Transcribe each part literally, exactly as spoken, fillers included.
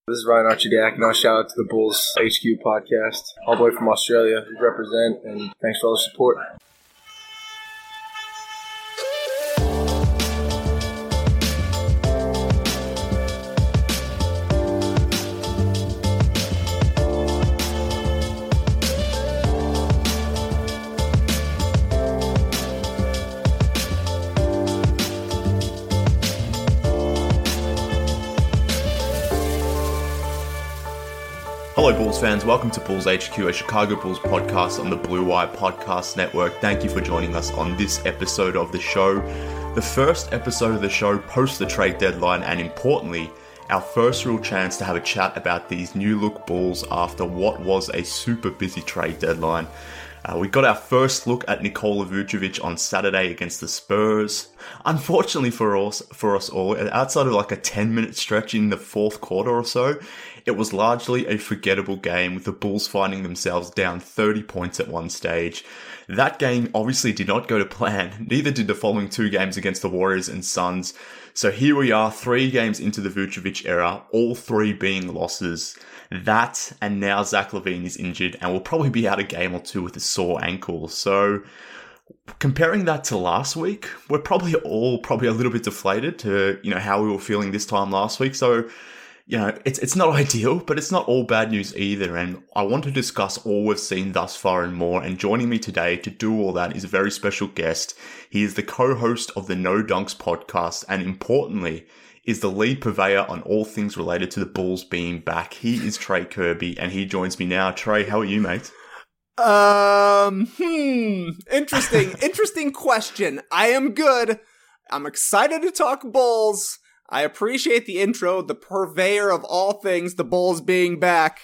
This is Ryan Archidiak, and I'll shout out to the Bulls H Q podcast. All the way from Australia, we represent, and thanks for all the support. Hello Bulls fans, welcome to Bulls H Q, a Chicago Bulls podcast on the Blue Wire Podcast Network. Thank you for joining us on this episode of the show. The first episode of the show post the trade deadline, and importantly, our first real chance to have a chat about these new look Bulls after what was a super busy trade deadline. Uh, we got our first look at Nikola Vucevic on Saturday against the Spurs. Unfortunately for us, for us all, outside of like a ten minute stretch in the fourth quarter or so, it was largely a forgettable game, with the Bulls finding themselves down thirty points at one stage. That game obviously did not go to plan, neither did the following two games against the Warriors and Suns. So here we are, three games into the Vucevic era, all three being losses. That, and now Zach LaVine is injured and will probably be out a game or two with a sore ankle. So comparing that to last week, we're probably all probably a little bit deflated to, you know, how we were feeling this time last week. So, you know, it's it's not ideal, but it's not all bad news either. And I want to discuss all we've seen thus far and more. And joining me today to do all that is a very special guest. He is the co-host of the No Dunks podcast, and importantly, is the lead purveyor on all things related to the Bulls being back. He is Trey Kirby, and he joins me now. Trey, how are you, mate? Um, hmm, interesting, interesting question. I am good. I'm excited to talk Bulls. I appreciate the intro, the purveyor of all things, the Bulls being back.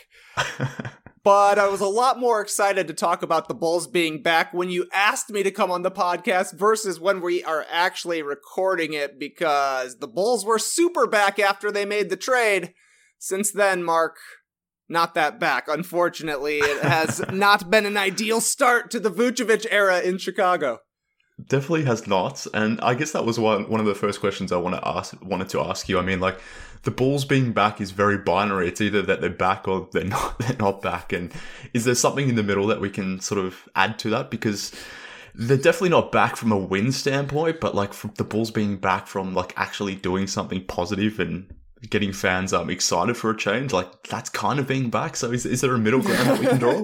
But I was a lot more excited to talk about the Bulls being back when you asked me to come on the podcast versus when we are actually recording it, because the Bulls were super back after they made the trade. Since then, Mark, not that back. Unfortunately, it has not been an ideal start to the Vucevic era in Chicago. Definitely has not, and I guess that was one one of the first questions I want to ask wanted to ask you. I mean, like, the Bulls being back is very binary. It's either that they're back or they're not. They're not back. And is there something in the middle that we can sort of add to that? Because they're definitely not back from a win standpoint, but like from the Bulls being back from like actually doing something positive and getting fans um excited for a change, like that's kind of being back. So is is there a middle ground that we can draw?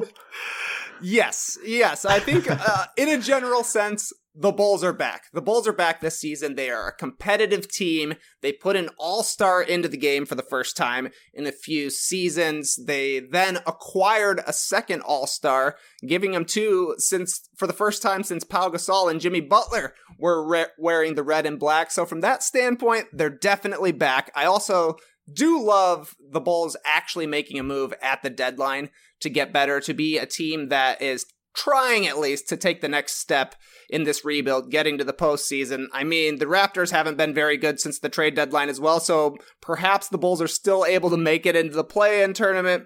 Yes, yes. I think uh, in a general sense, the Bulls are back. The Bulls are back this season. They are a competitive team. They put an all-star into the game for the first time in a few seasons. They then acquired a second all-star, giving them two since for the first time since Pau Gasol and Jimmy Butler were re- wearing the red and black. So from that standpoint, they're definitely back. I also do love the Bulls actually making a move at the deadline to get better, to be a team that is trying at least to take the next step in this rebuild, getting to the postseason. I mean, the Raptors haven't been very good since the trade deadline as well, so perhaps the Bulls are still able to make it into the play-in tournament.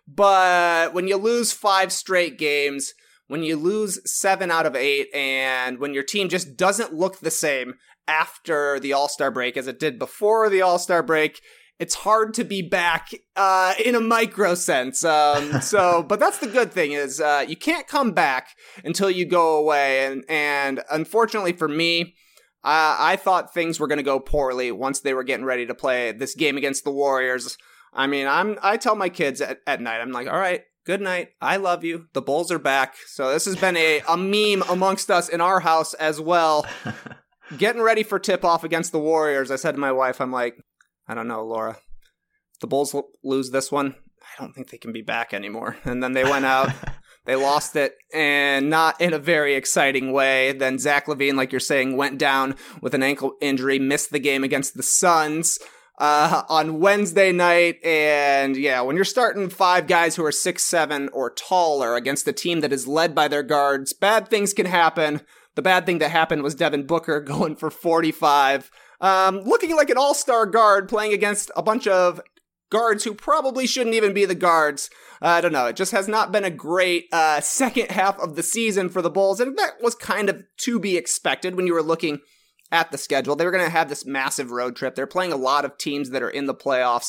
But when you lose five straight games, when you lose seven out of eight, and when your team just doesn't look the same after the All-Star break as it did before the All-Star break, it's hard to be back uh, in a micro sense. Um, so, but that's the good thing is uh, you can't come back until you go away. And, and unfortunately for me, uh, I thought things were going to go poorly once they were getting ready to play this game against the Warriors. I mean, I'm I tell my kids at, at night, I'm like, all right, good night. I love you. The Bulls are back. So this has been a, a meme amongst us in our house as well. Getting ready for tip-off against the Warriors, I said to my wife, I'm like, I don't know, Laura. If the Bulls l- lose this one, I don't think they can be back anymore. And then they went out, they lost it, and not in a very exciting way. Then Zach LaVine, like you're saying, went down with an ankle injury, missed the game against the Suns uh, on Wednesday night. And yeah, when you're starting five guys who are six seven or taller against a team that is led by their guards, bad things can happen. The bad thing that happened was Devin Booker going for forty-five. Um, looking like an all-star guard playing against a bunch of guards who probably shouldn't even be the guards. Uh, I don't know. It just has not been a great uh, second half of the season for the Bulls, and that was kind of to be expected when you were looking at the schedule. They were going to have this massive road trip. They're playing a lot of teams that are in the playoffs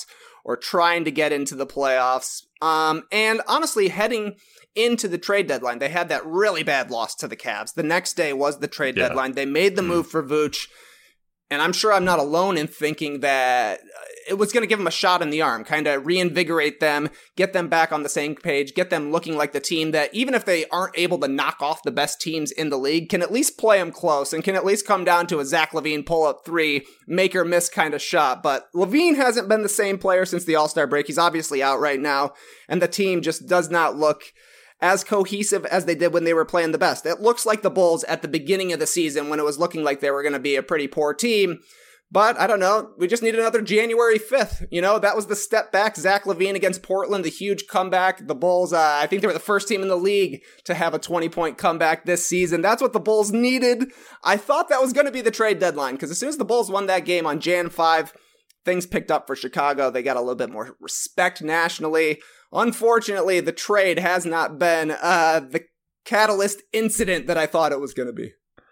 or trying to get into the playoffs. Um, and honestly, heading into the trade deadline, they had that really bad loss to the Cavs. The next day was the trade yeah. deadline. They made the mm. move for Vooch. And I'm sure I'm not alone in thinking that it was going to give them a shot in the arm, kind of reinvigorate them, get them back on the same page, get them looking like the team that, even if they aren't able to knock off the best teams in the league, can at least play them close and can at least come down to a Zach LaVine pull-up three, make or miss kind of shot. But LaVine hasn't been the same player since the All-Star break. He's obviously out right now, and the team just does not look as cohesive as they did when they were playing the best. It looks like the Bulls at the beginning of the season when it was looking like they were going to be a pretty poor team. But I don't know, we just need another January fifth. You know, that was the step back. Zach LaVine against Portland, the huge comeback. The Bulls, uh, I think they were the first team in the league to have a twenty-point comeback this season. That's what the Bulls needed. I thought that was going to be the trade deadline, because as soon as the Bulls won that game on January fifth, things picked up for Chicago. They got a little bit more respect nationally. Unfortunately, the trade has not been uh, the catalyst incident that I thought it was going to be.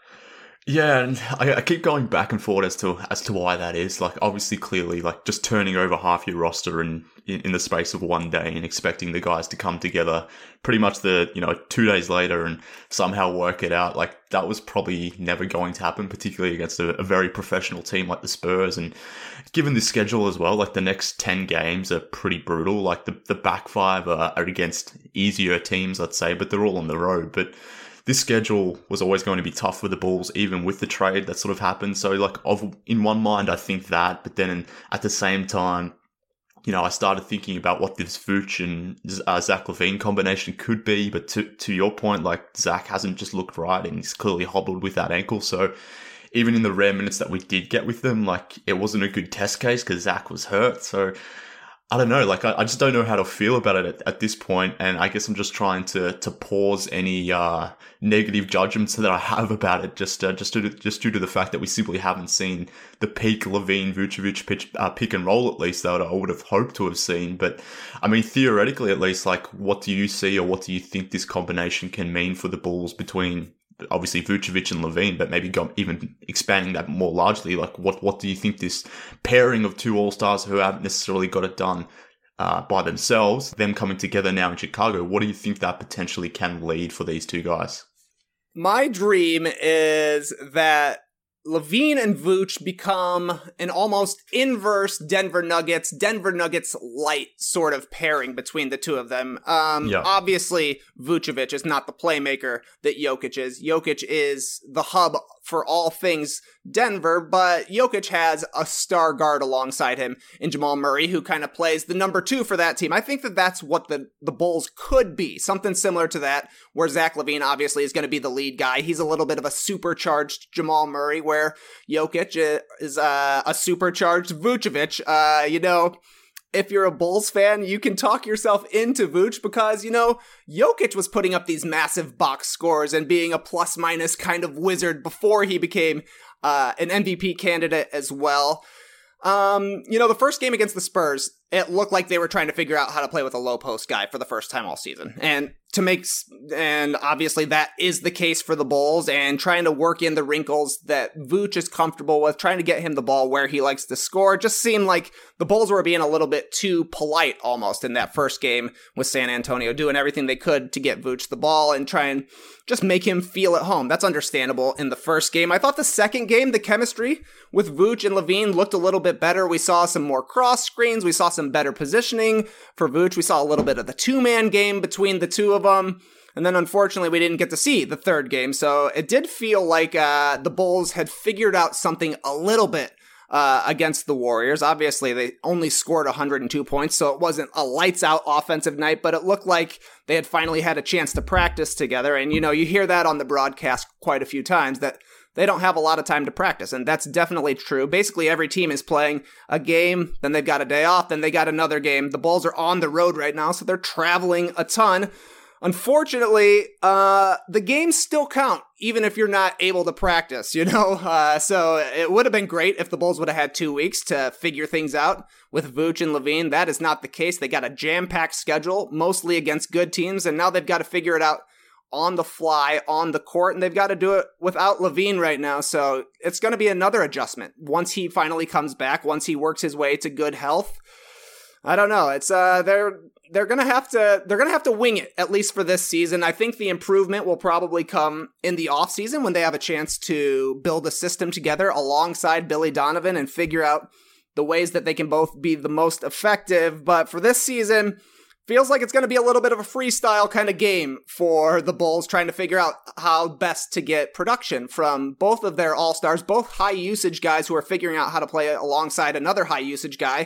Yeah, and I, I keep going back and forth as to as to why that is. Like, obviously, clearly, like just turning over half your roster in, in in the space of one day and expecting the guys to come together pretty much the you know two days later and somehow work it out. Like, that was probably never going to happen, particularly against a, a very professional team like the Spurs. And given the schedule as well, like the next ten games are pretty brutal. Like the the back five are, are against easier teams, let's say, but they're all on the road. But this schedule was always going to be tough for the Bulls, even with the trade that sort of happened. So, like, of in one mind, I think that, but then in, at the same time, you know, I started thinking about what this Vooch and uh, Zach LaVine combination could be. But to to your point, like, Zach hasn't just looked right, and he's clearly hobbled with that ankle. So, even in the rare minutes that we did get with them, like, it wasn't a good test case because Zach was hurt. So, I don't know, like, I, I just don't know how to feel about it at, at this point, and I guess I'm just trying to to pause any uh, negative judgments that I have about it, just uh, just, due to, just due to the fact that we simply haven't seen the peak LaVine-Vucevic pitch, uh, pick and roll, at least, that I would have hoped to have seen. But, I mean, theoretically, at least, like, what do you see or what do you think this combination can mean for the Bulls between, obviously, Vucevic and LaVine, but maybe go, even expanding that more largely? Like, what what do you think this pairing of two All-Stars who haven't necessarily got it done uh, by themselves, them coming together now in Chicago, what do you think that potentially can lead for these two guys? My dream is that LaVine and Vooch become an almost inverse Denver Nuggets, Denver Nuggets light sort of pairing between the two of them. Um, yeah. Obviously, Vucevic is not the playmaker that Jokic is. Jokic is the hub for all things Denver, but Jokic has a star guard alongside him in Jamal Murray, who kind of plays the number two for that team. I think that that's what the, the Bulls could be, something similar to that, where Zach LaVine obviously is going to be the lead guy. He's a little bit of a supercharged Jamal Murray, where Jokic is uh, a supercharged Vucevic. Uh, you know, if you're a Bulls fan, you can talk yourself into Vooch because, you know, Jokic was putting up these massive box scores and being a plus-minus kind of wizard before he became uh, an M V P candidate as well. Um, you know, the first game against the Spurs, it looked like they were trying to figure out how to play with a low post guy for the first time all season. And to make, and obviously that is the case for the Bulls, and trying to work in the wrinkles that Vooch is comfortable with, trying to get him the ball where he likes to score. It just seemed like the Bulls were being a little bit too polite almost in that first game with San Antonio, doing everything they could to get Vooch the ball and try and just make him feel at home. That's understandable in the first game. I thought the second game, the chemistry with Vooch and LaVine looked a little bit better. We saw some more cross screens. We saw some better positioning for Vooch. We saw a little bit of the two-man game between the two of them. And then, unfortunately, we didn't get to see the third game. So it did feel like uh, the Bulls had figured out something a little bit uh, against the Warriors. Obviously, they only scored one hundred two points, so it wasn't a lights-out offensive night, but it looked like they had finally had a chance to practice together. And, you know, you hear that on the broadcast quite a few times, that they don't have a lot of time to practice, and that's definitely true. Basically, every team is playing a game, then they've got a day off, then they got another game. The Bulls are on the road right now, so they're traveling a ton. Unfortunately, uh, the games still count, even if you're not able to practice, you know? Uh, so it would have been great if the Bulls would have had two weeks to figure things out with Vooch and LaVine. That is not the case. They got a jam-packed schedule, mostly against good teams, and now they've got to figure it out on the fly, on the court, and they've got to do it without LaVine right now, so it's going to be another adjustment. Once he finally comes back, once he works his way to good health, I don't know. It's uh, they're they're gonna have to they're gonna have to wing it, at least for this season. I think the improvement will probably come in the offseason when they have a chance to build a system together alongside Billy Donovan and figure out the ways that they can both be the most effective. But for this season, feels like it's going to be a little bit of a freestyle kind of game for the Bulls, trying to figure out how best to get production from both of their all-stars, both high-usage guys who are figuring out how to play alongside another high-usage guy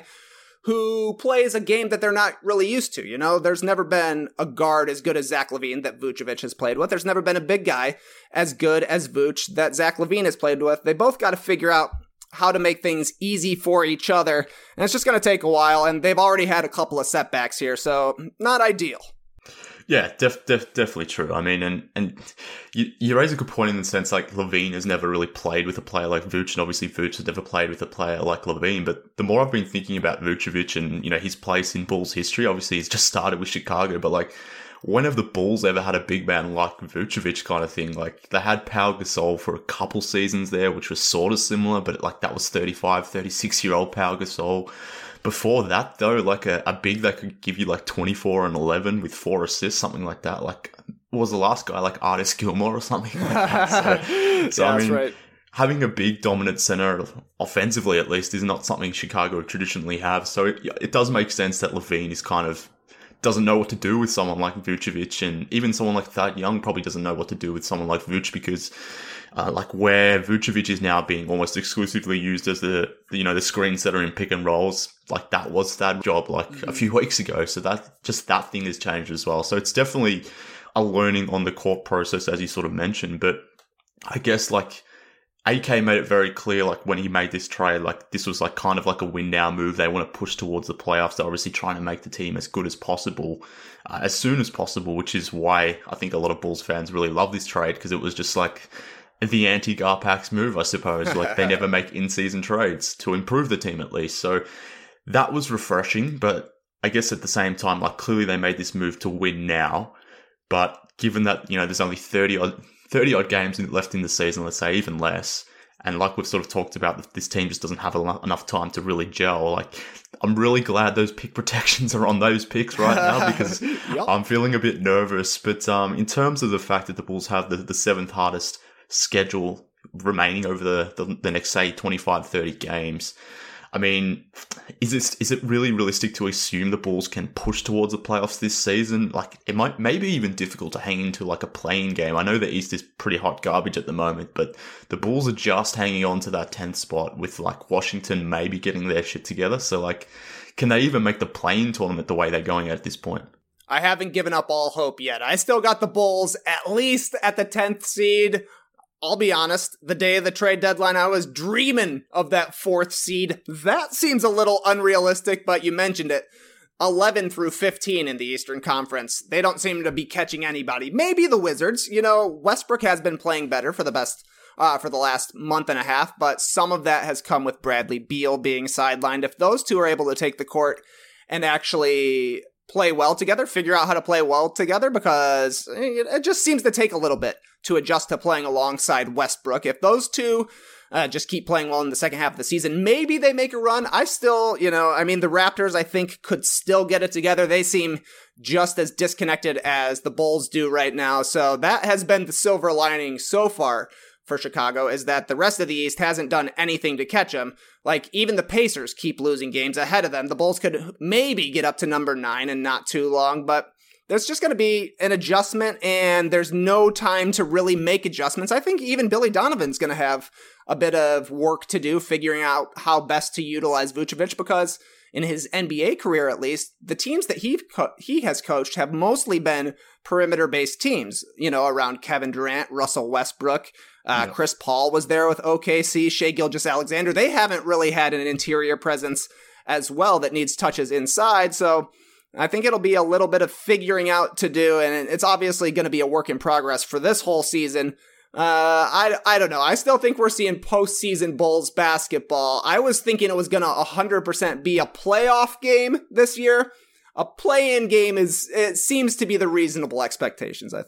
who plays a game that they're not really used to. You know, there's never been a guard as good as Zach LaVine that Vucevic has played with. There's never been a big guy as good as Vuce that Zach LaVine has played with. They both got to figure out how to make things easy for each other, and it's just going to take a while, and they've already had a couple of setbacks here, so not ideal. Yeah, def, def, definitely true. I mean, and, and you, you raise a good point in the sense, like, LaVine has never really played with a player like Vuce, and obviously Vuce has never played with a player like LaVine, but the more I've been thinking about Vucevic and, you know, his place in Bulls history, obviously he's just started with Chicago, but, like, when have the Bulls ever had a big man like Vucevic kind of thing? Like, they had Pau Gasol for a couple seasons there, which was sort of similar, but, like, that was thirty-five, thirty-six-year-old Pau Gasol. Before that, though, like a, a big that could give you like twenty-four and eleven with four assists, something like that. Like, what was the last guy? Like Artis Gilmore or something like that. So, so yeah, I mean, that's right. Having a big dominant center, offensively at least, is not something Chicago traditionally have. So it, it does make sense that LaVine is kind of doesn't know what to do with someone like Vucevic, and even someone like Thad Young probably doesn't know what to do with someone like Vuce, because uh, like where Vucevic is now being almost exclusively used as the, you know, the screen setter in pick and rolls, like that was Thad's job like mm-hmm. a few weeks ago. So that just that thing has changed as well. So it's definitely a learning on the court process, as you sort of mentioned. But I guess like A K made it very clear, like when he made this trade, like this was like kind of like a win now move. They want to push towards the playoffs. They're obviously trying to make the team as good as possible, uh, as soon as possible, which is why I think a lot of Bulls fans really love this trade, because it was just like the anti-Garpax move, I suppose. Like they never make in-season trades to improve the team at least. So that was refreshing, but I guess at the same time, like clearly they made this move to win now. But given that, you know, there's only thirty odd, thirty odd games left in the season, let's say, even less. And like we've sort of talked about, this team just doesn't have enough time to really gel. Like, I'm really glad those pick protections are on those picks right now, because yep. I'm feeling a bit nervous. But um, in terms of the fact that the Bulls have the, the seventh hardest schedule remaining over the, the, the next, say, twenty-five, thirty games, I mean, is it, is it really realistic to assume the Bulls can push towards the playoffs this season? Like, it might maybe even difficult to hang into like a play-in game. I know the East is pretty hot garbage at the moment, but the Bulls are just hanging on to that tenth spot with like Washington maybe getting their shit together. So like, can they even make the play-in tournament the way they're going at this point? I haven't given up all hope yet. I still got the Bulls at least at the tenth seed. I'll be honest, the day of the trade deadline, I was dreaming of that fourth seed. That seems a little unrealistic, but you mentioned it. eleven through fifteen in the Eastern Conference. They don't seem to be catching anybody. Maybe the Wizards. You know, Westbrook has been playing better for the best, uh, for the last month and a half, but some of that has come with Bradley Beal being sidelined. If those two are able to take the court and actually play well together, figure out how to play well together, because it just seems to take a little bit to adjust to playing alongside Westbrook. If those two uh, just keep playing well in the second half of the season, maybe they make a run. I still, you know, I mean, the Raptors, I think, could still get it together. They seem just as disconnected as the Bulls do right now. So that has been the silver lining so far for Chicago, is that the rest of the East hasn't done anything to catch them. Like, even the Pacers keep losing games ahead of them. The Bulls could maybe get up to number nine in not too long, but there's just going to be an adjustment, and there's no time to really make adjustments. I think even Billy Donovan's going to have a bit of work to do figuring out how best to utilize Vucevic, because in his N B A career, at least, the teams that he co- he has coached have mostly been perimeter-based teams, you know, around Kevin Durant, Russell Westbrook. Uh, yeah. Chris Paul was there with O K C, Shai Gilgeous-Alexander. They haven't really had an interior presence as well that needs touches inside, so I think it'll be a little bit of figuring out to do, and it's obviously going to be a work in progress for this whole season. Uh, I, I don't know. I still think we're seeing postseason Bulls basketball. I was thinking it was going to one hundred percent be a playoff game this year. A play-in game is, it seems to be the reasonable expectations, I think.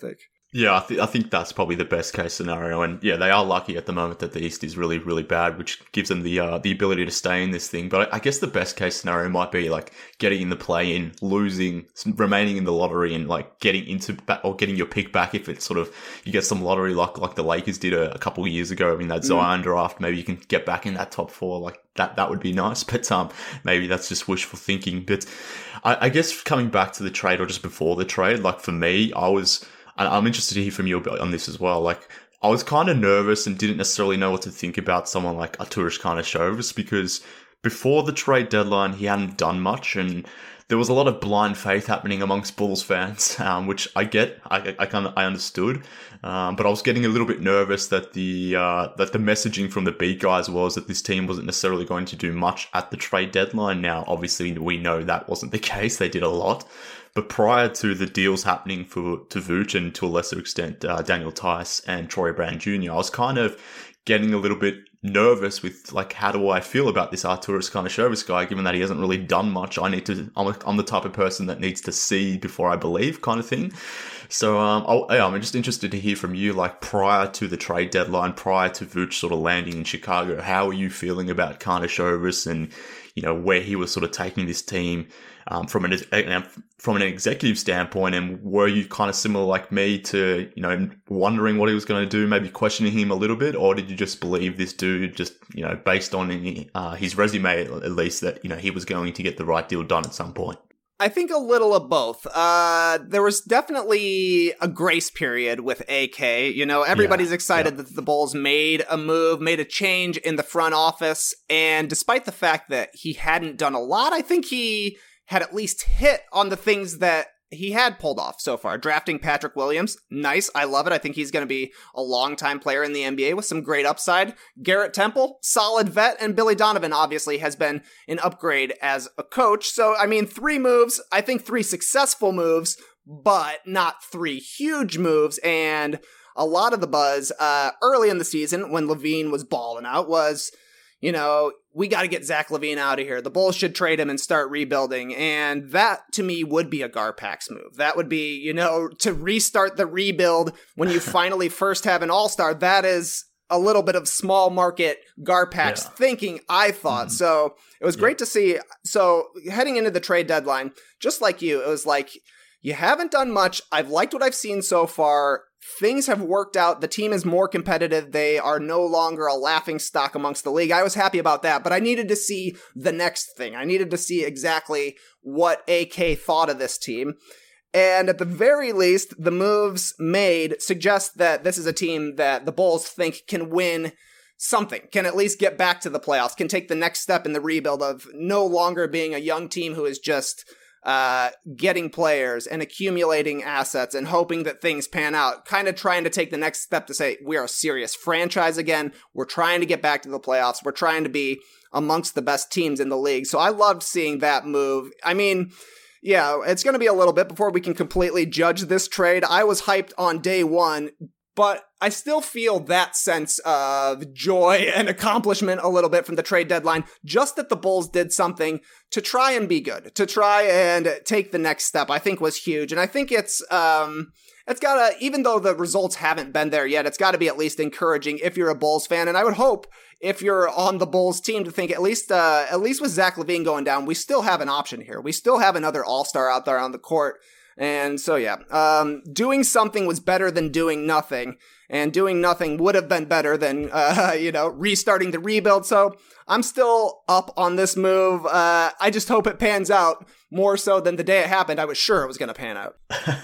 Yeah, I, th- I think that's probably the best case scenario, and yeah, they are lucky at the moment that the East is really, really bad, which gives them the uh, the ability to stay in this thing. But I, I guess the best case scenario might be like getting in the play-in, losing, remaining in the lottery, and like getting into ba- or getting your pick back if it's sort of you get some lottery luck like the Lakers did a, a couple of years ago in that Zion mm. draft. Maybe you can get back in that top four, like that. That would be nice, but um, maybe that's just wishful thinking. But I, I guess coming back to the trade or just before the trade, like for me, I was. I'm interested to hear from you on this as well. Like, I was kind of nervous and didn't necessarily know what to think about someone like Arturas Karnisovas because before the trade deadline, he hadn't done much and there was a lot of blind faith happening amongst Bulls fans, um, which I get, I, I kind of, I understood, um, but I was getting a little bit nervous that the uh, that the messaging from the beat guys was that this team wasn't necessarily going to do much at the trade deadline. Now, obviously, we know that wasn't the case; they did a lot, but prior to the deals happening for to Vooch and to a lesser extent uh, Daniel Tice and Troy Brown Junior, I was kind of getting a little bit nervous with like, how do I feel about this Arturas Karnisovas guy, given that he hasn't really done much. I need to, I'm, a, I'm the type of person that needs to see before I believe kind of thing. So um, I'll, yeah, I'm just interested to hear from you, like prior to the trade deadline, prior to Vooch sort of landing in Chicago, how are you feeling about Karnisovas and, you know, where he was sort of taking this team um, from an from an executive standpoint, and were you kind of similar like me to, you know, wondering what he was going to do, maybe questioning him a little bit, or did you just believe this dude just, you know, based on uh, his resume at least, that, you know, he was going to get the right deal done at some point? I think a little of both. Uh, there was definitely a grace period with A K. You know, everybody's yeah, excited yeah. that the Bulls made a move, made a change in the front office. And despite the fact that he hadn't done a lot, I think he had at least hit on the things that he had pulled off so far. Drafting Patrick Williams, nice. I love it. I think he's going to be a long-time player in the N B A with some great upside. Garrett Temple, solid vet. And Billy Donovan obviously has been an upgrade as a coach. So, I mean, three moves, I think three successful moves, but not three huge moves. And a lot of the buzz uh, early in the season when LaVine was balling out was, you know, we got to get Zach LaVine out of here. The Bulls should trade him and start rebuilding. And that, to me, would be a Garpax move. That would be, you know, to restart the rebuild when you finally first have an all-star. That is a little bit of small market Garpax yeah. thinking, I thought. Mm-hmm. So it was great yeah. to see. So heading into the trade deadline, just like you, it was like, you haven't done much. I've liked what I've seen so far. Things have worked out. The team is more competitive. They are no longer a laughing stock amongst the league. I was happy about that, but I needed to see the next thing. I needed to see exactly what A K thought of this team. And at the very least, the moves made suggest that this is a team that the Bulls think can win something, can at least get back to the playoffs, can take the next step in the rebuild of no longer being a young team who is just uh, getting players and accumulating assets and hoping that things pan out, kind of trying to take the next step to say, we are a serious franchise again. We're trying to get back to the playoffs. We're trying to be amongst the best teams in the league. So I loved seeing that move. I mean, yeah, it's going to be a little bit before we can completely judge this trade. I was hyped on day one, but I still feel that sense of joy and accomplishment a little bit from the trade deadline, just that the Bulls did something to try and be good, to try and take the next step, I think was huge. And I think it's, um, it's gotta, even though the results haven't been there yet, it's gotta be at least encouraging if you're a Bulls fan. And I would hope if you're on the Bulls team to think at least, uh, at least with Zach LaVine going down, we still have an option here. We still have another all-star out there on the court. And so, yeah, um, doing something was better than doing nothing, and doing nothing would have been better than, uh, you know, restarting the rebuild. So I'm still up on this move. Uh, I just hope it pans out more so than the day it happened. I was sure it was going to pan out.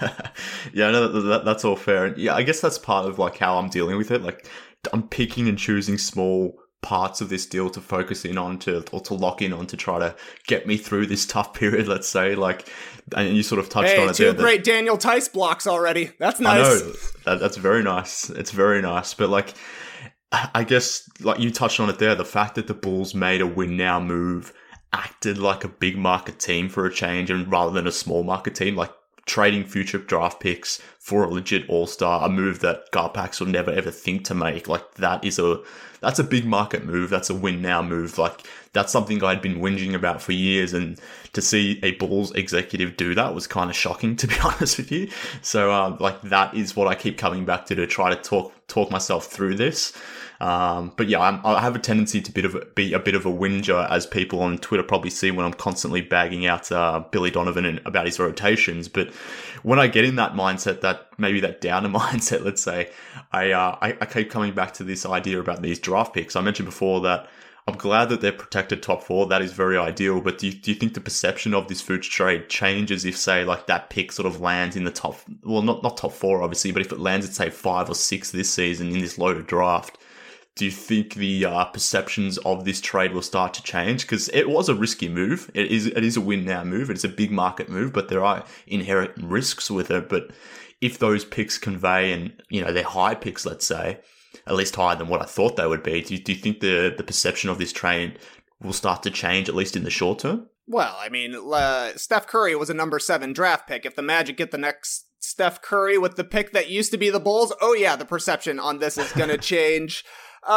Yeah, no, that, that, that's all fair. And yeah, I guess that's part of like how I'm dealing with it. Like, I'm picking and choosing small parts of this deal to focus in on, to or to lock in on, to try to get me through this tough period, let's say. Like, and you sort of touched hey, on it two there. Two great that, Daniel Tice blocks already. That's nice. I know. That, that's very nice. It's very nice. But like, I guess like you touched on it there, the fact that the Bulls made a win now move, acted like a big market team for a change, and rather than a small market team, like trading future draft picks for a legit all-star, a move that Garpax will never ever think to make. Like, that is a, that's a big market move. That's a win now move. Like, that's something I'd been whinging about for years. And to see a Bulls executive do that was kind of shocking, to be honest with you. So, uh, like, that is what I keep coming back to, to try to talk, talk myself through this. Um, but yeah, I'm, I have a tendency to bit of a, be a bit of a whinger, as people on Twitter probably see when I'm constantly bagging out uh, Billy Donovan and about his rotations. But when I get in that mindset, that maybe that downer mindset, let's say, I, uh, I I keep coming back to this idea about these draft picks. I mentioned before that I'm glad that they're protected top four. That is very ideal. But do you, do you think the perception of this Vooch trade changes if, say, like that pick sort of lands in the top, well, not not top four obviously, but if it lands at say five or six this season in this loaded draft? Do you think the uh, perceptions of this trade will start to change? Because it was a risky move. It is it is a win now move. It's a big market move, but there are inherent risks with it. But if those picks convey, and you know they're high picks, let's say, at least higher than what I thought they would be, do you, do you think the the perception of this trade will start to change, at least in the short term? Well, I mean, uh, Steph Curry was a number seven draft pick. If the Magic get the next Steph Curry with the pick that used to be the Bulls, oh yeah, the perception on this is going to change.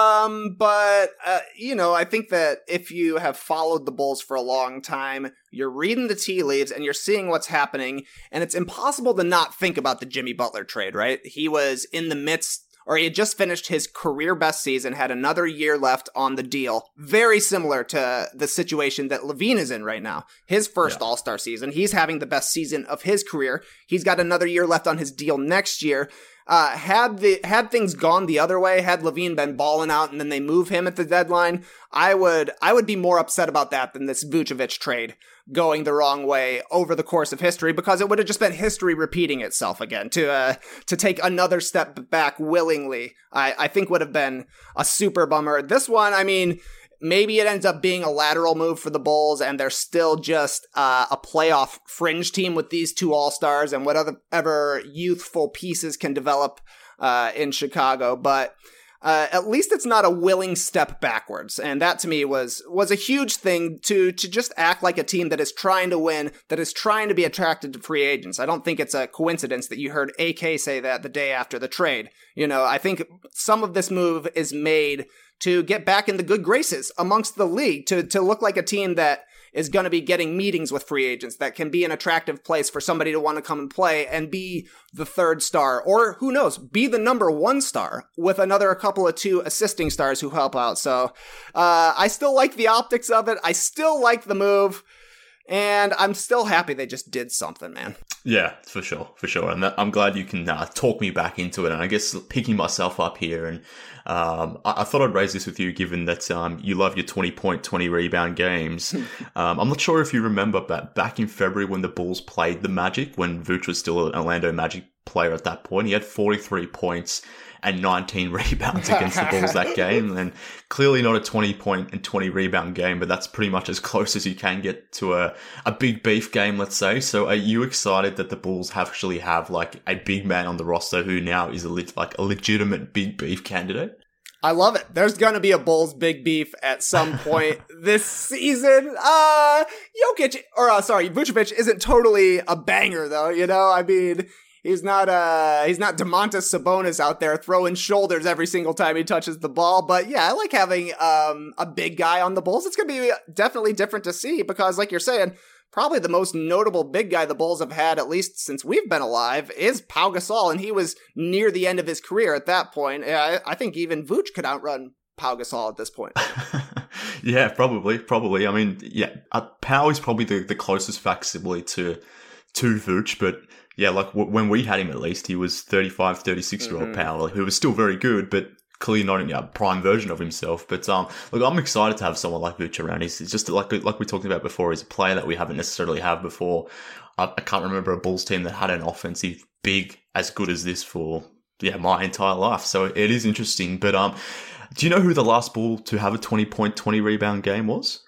Um, but, uh, you know, I think that if you have followed the Bulls for a long time, you're reading the tea leaves and you're seeing what's happening, and it's impossible to not think about the Jimmy Butler trade, right? He was in the midst, or he had just finished his career best season, had another year left on the deal. Very similar to the situation that LaVine is in right now. His first yeah. All-Star season, he's having the best season of his career. He's got another year left on his deal next year. Uh, had the had things gone the other way, had LaVine been balling out and then they move him at the deadline, I would I would be more upset about that than this Vucevic trade going the wrong way over the course of history, because it would have just been history repeating itself again. To uh, to take another step back willingly, I, I think would have been a super bummer. This one, I mean, maybe it ends up being a lateral move for the Bulls, and they're still just uh, a playoff fringe team with these two All-Stars and whatever youthful pieces can develop uh, in Chicago. But uh, at least it's not a willing step backwards, and that to me was was a huge thing, to to just act like a team that is trying to win, that is trying to be attracted to free agents. I don't think it's a coincidence that you heard A K say that the day after the trade. You know, I think some of this move is made to get back in the good graces amongst the league, to to look like a team that is going to be getting meetings with free agents, that can be an attractive place for somebody to want to come and play and be the third star, or who knows, be the number one star with another couple of two assisting stars who help out. So uh, I still like the optics of it. I still like the move. And I'm still happy they just did something, man. Yeah, for sure, for sure. And that, I'm glad you can uh, talk me back into it. And I guess picking myself up here, and um, I, I thought I'd raise this with you, given that um, you love your twenty-point, twenty-rebound games. um, I'm not sure if you remember, but back in February when the Bulls played the Magic, when Vooch was still an Orlando Magic player at that point, he had forty-three points and nineteen rebounds against the Bulls that game. And clearly not a twenty point and twenty rebound game, but that's pretty much as close as you can get to a, a big beef game, let's say. So are you excited that the Bulls actually have like a big man on the roster who now is a le- like a legitimate big beef candidate? I love it. There's going to be a Bulls big beef at some point this season. Uh, Jokic, or uh, sorry, Vucevic isn't totally a banger though, you know? I mean, He's not uh he's not Domantas Sabonis out there throwing shoulders every single time he touches the ball. But yeah, I like having um a big guy on the Bulls. It's going to be definitely different to see, because like you're saying, probably the most notable big guy the Bulls have had, at least since we've been alive, is Pau Gasol. And he was near the end of his career at that point. I, I think even Vooch could outrun Pau Gasol at this point. Yeah, probably, probably. I mean, yeah, uh, Pau is probably the, the closest facsimile to, to Vooch, but yeah, like w- when we had him, at least, he was thirty-five, thirty-six-year-old mm-hmm. Pau, who was still very good, but clearly not in a prime version of himself. But um, look, I'm excited to have someone like Vooch around. He's, he's just like like we talked about before. He's a player that we haven't necessarily had before. I, I can't remember a Bulls team that had an offensive big as good as this for yeah my entire life. So it is interesting. But um, do you know who the last Bull to have a twenty-point, twenty-rebound game was?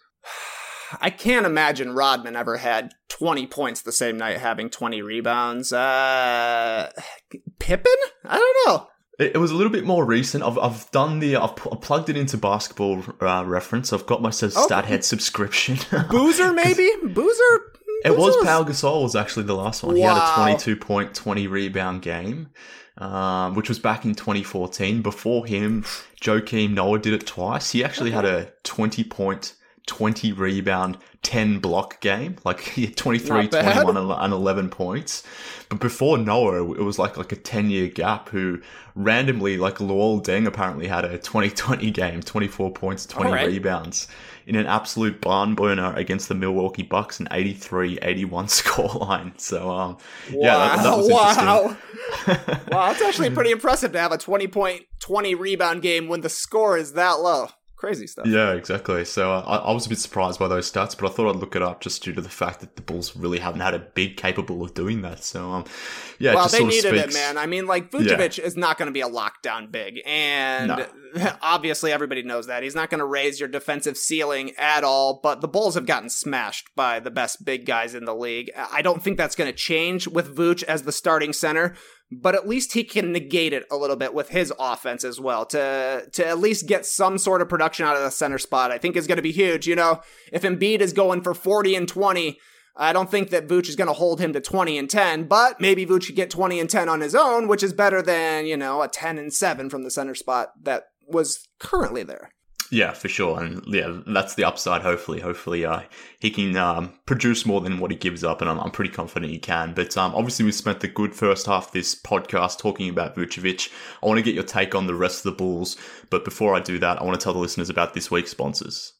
I can't imagine Rodman ever had twenty points the same night having twenty rebounds. Uh, Pippen? I don't know. It, it was a little bit more recent. I've I've done the I've, I've plugged it into Basketball uh, Reference. I've got my StatHead okay. subscription. Boozer maybe? Boozer It was Pau Gasol was actually the last one. Wow. He had a twenty-two point, twenty rebound game, um, which was back in twenty fourteen. Before him, Joakim Noah did it twice. He actually okay. had a twenty point, twenty rebound, ten block game. Like he had twenty-three, twenty-one, and eleven points. But before Noah, it was like like a ten-year gap who randomly, like Luol Deng apparently had a twenty twenty game, twenty-four points, twenty right. rebounds in an absolute barn burner against the Milwaukee Bucks, an eighty-three eighty-one scoreline. So, um, wow. yeah, that, that was wow. interesting. Wow, that's actually pretty impressive to have a twenty point, twenty rebound game when the score is that low. Crazy stuff. Yeah, exactly. So uh, I, I was a bit surprised by those stats, but I thought I'd look it up just due to the fact that the Bulls really haven't had a big capable of doing that. So, um, yeah, well, it just they sort of needed speaks. it, man. I mean, like Vucevic Yeah. is not going to be a lockdown big, and No. obviously everybody knows that he's not going to raise your defensive ceiling at all. But the Bulls have gotten smashed by the best big guys in the league. I don't think that's going to change with Vuce as the starting center. But at least he can negate it a little bit with his offense as well to to at least get some sort of production out of the center spot. I think is going to be huge. You know, if Embiid is going for forty and twenty, I don't think that Vuce is going to hold him to twenty and ten, but maybe Vuce could get twenty and ten on his own, which is better than, you know, a ten and seven from the center spot that was currently there. Yeah, for sure. And yeah, that's the upside, hopefully. Hopefully uh, he can um, produce more than what he gives up, and I'm, I'm pretty confident he can. But um, obviously we spent the good first half of this podcast talking about Vucevic. I want to get your take on the rest of the Bulls. But before I do that, I want to tell the listeners about this week's sponsors.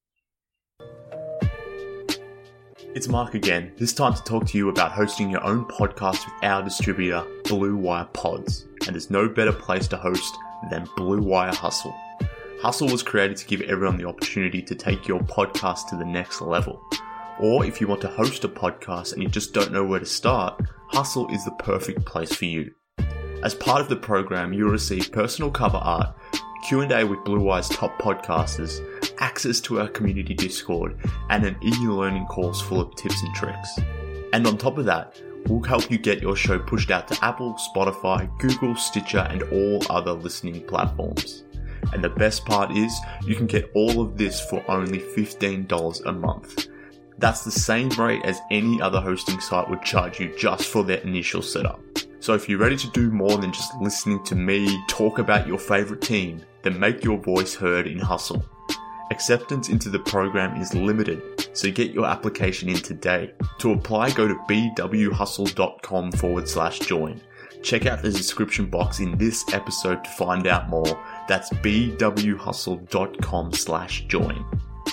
It's Mark again, this time to talk to you about hosting your own podcast with our distributor, Blue Wire Pods. And there's no better place to host than Blue Wire Hustle. Hustle was created to give everyone the opportunity to take your podcast to the next level. Or if you want to host a podcast and you just don't know where to start, Hustle is the perfect place for you. As part of the program, you'll receive personal cover art, Q and A with Blue Wire's top podcasters, access to our community Discord, and an e-learning course full of tips and tricks. And on top of that, we'll help you get your show pushed out to Apple, Spotify, Google, Stitcher, and all other listening platforms. And the best part is, you can get all of this for only fifteen dollars a month. That's the same rate as any other hosting site would charge you just for their initial setup. So if you're ready to do more than just listening to me talk about your favorite team, then make your voice heard in Hustle. Acceptance into the program is limited, so get your application in today. To apply, go to bwhustle.com forward slash join. Check out the description box in this episode to find out more. That's bwhustle.com slash join.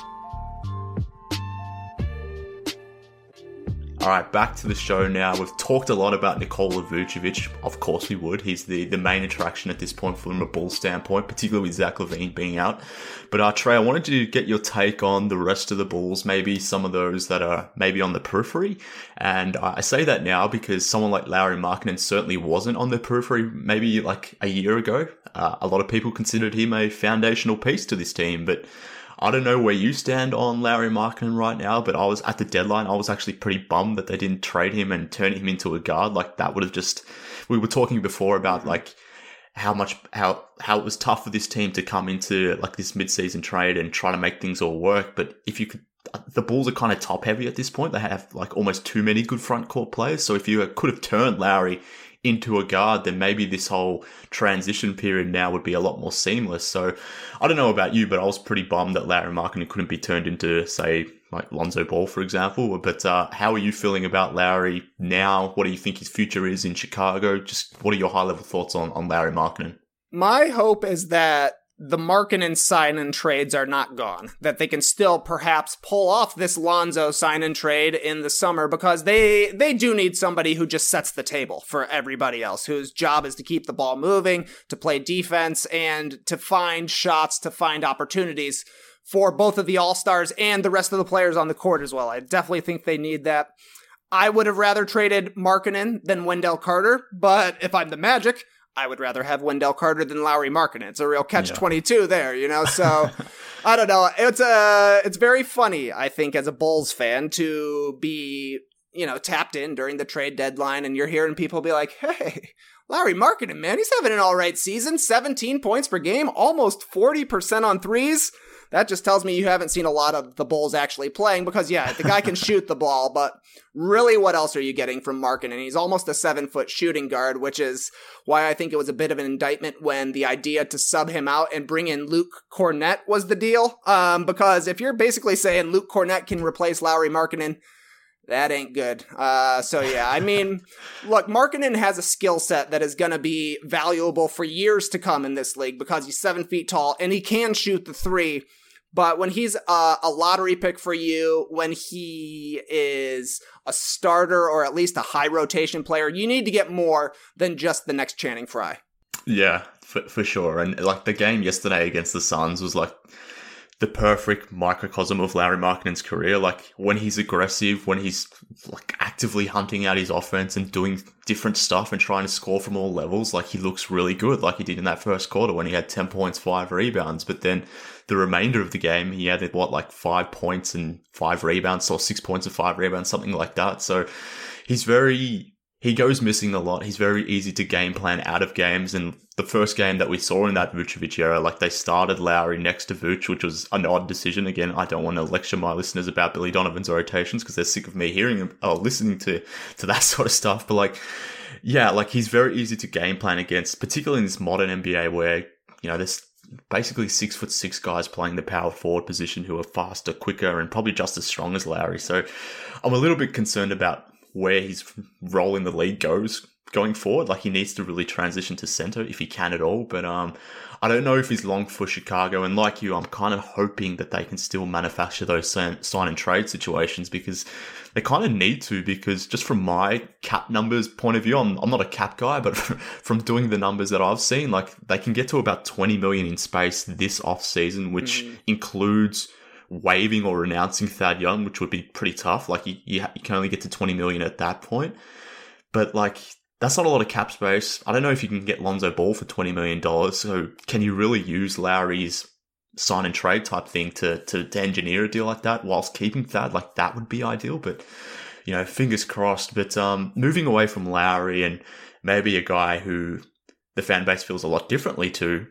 Alright, back to the show now. We've talked a lot about Nikola Vucevic. Of course we would. He's the, the main attraction at this point from a Bulls standpoint, particularly with Zach LaVine being out. But uh, Trey, I wanted to get your take on the rest of the Bulls, maybe some of those that are maybe on the periphery. And uh, I say that now because someone like Lauri Markkanen certainly wasn't on the periphery maybe like a year ago. Uh, a lot of people considered him a foundational piece to this team, but I don't know where you stand on Lauri Markkanen right now, but I was at the deadline. I was actually pretty bummed that they didn't trade him and turn him into a guard. Like that would have just, we were talking before about like how much, how, how it was tough for this team to come into like this mid-season trade and try to make things all work. But if you could, the Bulls are kind of top heavy at this point. They have like almost too many good front court players. So if you could have turned Lauri into a guard, then maybe this whole transition period now would be a lot more seamless. So I don't know about you, but I was pretty bummed that Lauri Markkanen couldn't be turned into, say, like Lonzo Ball, for example. But uh, how are you feeling about Lauri now? What do you think his future is in Chicago? Just what are your high-level thoughts on, on Lauri Markkanen? My hope is that the Markkanen sign-and trades are not gone, that they can still perhaps pull off this Lonzo sign-and trade in the summer, because they they do need somebody who just sets the table for everybody else, whose job is to keep the ball moving, to play defense, and to find shots, to find opportunities for both of the All-Stars and the rest of the players on the court as well. I definitely think they need that. I would have rather traded Markkanen than Wendell Carter, but if I'm the Magic, I would rather have Wendell Carter than Lauri Markkanen. It's a real catch twenty-two there, you know? So, I don't know. It's uh, it's very funny, I think, as a Bulls fan to be, you know, tapped in during the trade deadline, and you're hearing people be like, hey, Lauri Markkanen, man, he's having an all right season. seventeen points per game, almost forty percent on threes. that just tells me you haven't seen a lot of the Bulls actually playing because, yeah, the guy can shoot the ball, but really what else are you getting from Markkanen? He's almost a seven-foot shooting guard, which is why I think it was a bit of an indictment when the idea to sub him out and bring in Luke Kornet was the deal. Um, because if you're basically saying Luke Kornet can replace Lauri Markkanen, that ain't good. Uh, so yeah, I mean, look, Markkanen has a skill set that is going to be valuable for years to come in this league because he's seven feet tall and he can shoot the three. But when he's a, a lottery pick for you, when he is a starter or at least a high rotation player, you need to get more than just the next Channing Frye. Yeah, for, for sure. And like the game yesterday against the Suns was like the perfect microcosm of Lauri Markkanen's career. Like when he's aggressive, when he's like actively hunting out his offense and doing different stuff and trying to score from all levels, like he looks really good, like he did in that first quarter when he had ten points, five rebounds. But then the remainder of the game, he had what, like five points and five rebounds, or six points and five rebounds, something like that. So he's very, he goes missing a lot. He's very easy to game plan out of games. And the first game that we saw in that Vucevic era, like they started Lowry next to Vuce, which was an odd decision. Again, I don't want to lecture my listeners about Billy Donovan's rotations because they're sick of me hearing them or listening to, to that sort of stuff. But like, yeah, like he's very easy to game plan against, particularly in this modern N B A where, you know, there's basically six foot six guys playing the power forward position who are faster, quicker, and probably just as strong as Lowry. So I'm a little bit concerned about where his role in the league goes going forward. Like he needs to really transition to center if he can at all. But um, I don't know if he's long for Chicago. And like you, I'm kind of hoping that they can still manufacture those sign and trade situations because they kind of need to, because just from my cap numbers point of view, I'm, I'm not a cap guy, but from doing the numbers that I've seen, like they can get to about twenty million in space this off season, which mm. includes waiving or renouncing Thad Young, which would be pretty tough. Like you, you, you can only get to twenty million at that point. But like, that's not a lot of cap space. I don't know if you can get Lonzo Ball for twenty million dollars. So can you really use Lowry's sign and trade type thing to, to, to engineer a deal like that whilst keeping Thad? Like that would be ideal, but you know, fingers crossed. But um, moving away from Lowry and maybe a guy who the fan base feels a lot differently to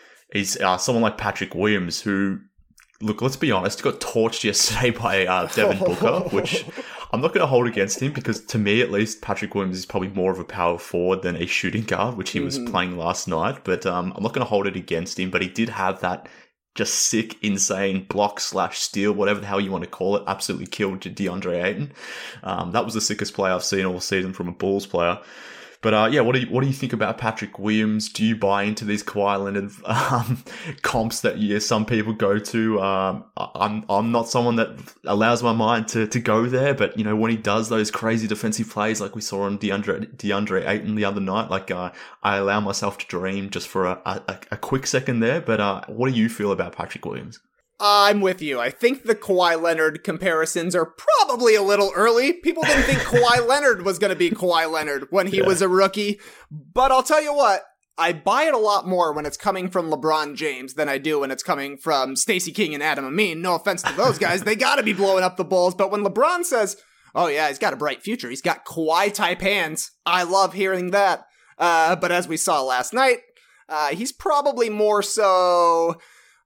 is uh, someone like Patrick Williams, who, look, let's be honest, got torched yesterday by uh, Devin Booker, which I'm not going to hold against him because to me, at least, Patrick Williams is probably more of a power forward than a shooting guard, which he mm-hmm. was playing last night. But um, I'm not going to hold it against him. But he did have that just sick, insane block slash steal, whatever the hell you want to call it. Absolutely killed DeAndre Ayton. Um, that was the sickest play I've seen all season from a Bulls player. But uh, yeah, what do you what do you think about Patrick Williams? Do you buy into these Kawhi Leonard um, comps that yeah, some people go to? Um, I'm I'm not someone that allows my mind to, to go there, but you know when he does those crazy defensive plays like we saw on DeAndre DeAndre Ayton the other night, like uh, I allow myself to dream just for a, a, a quick second there. But uh, what do you feel about Patrick Williams? I'm with you. I think the Kawhi Leonard comparisons are probably a little early. People didn't think Kawhi Leonard was going to be Kawhi Leonard when he yeah. was a rookie. But I'll tell you what, I buy it a lot more when it's coming from LeBron James than I do when it's coming from Stacey King and Adam Amin. No offense to those guys. They got to be blowing up the Bulls. But when LeBron says, oh yeah, he's got a bright future, he's got Kawhi-type hands, I love hearing that. Uh, but as we saw last night, uh, he's probably more so...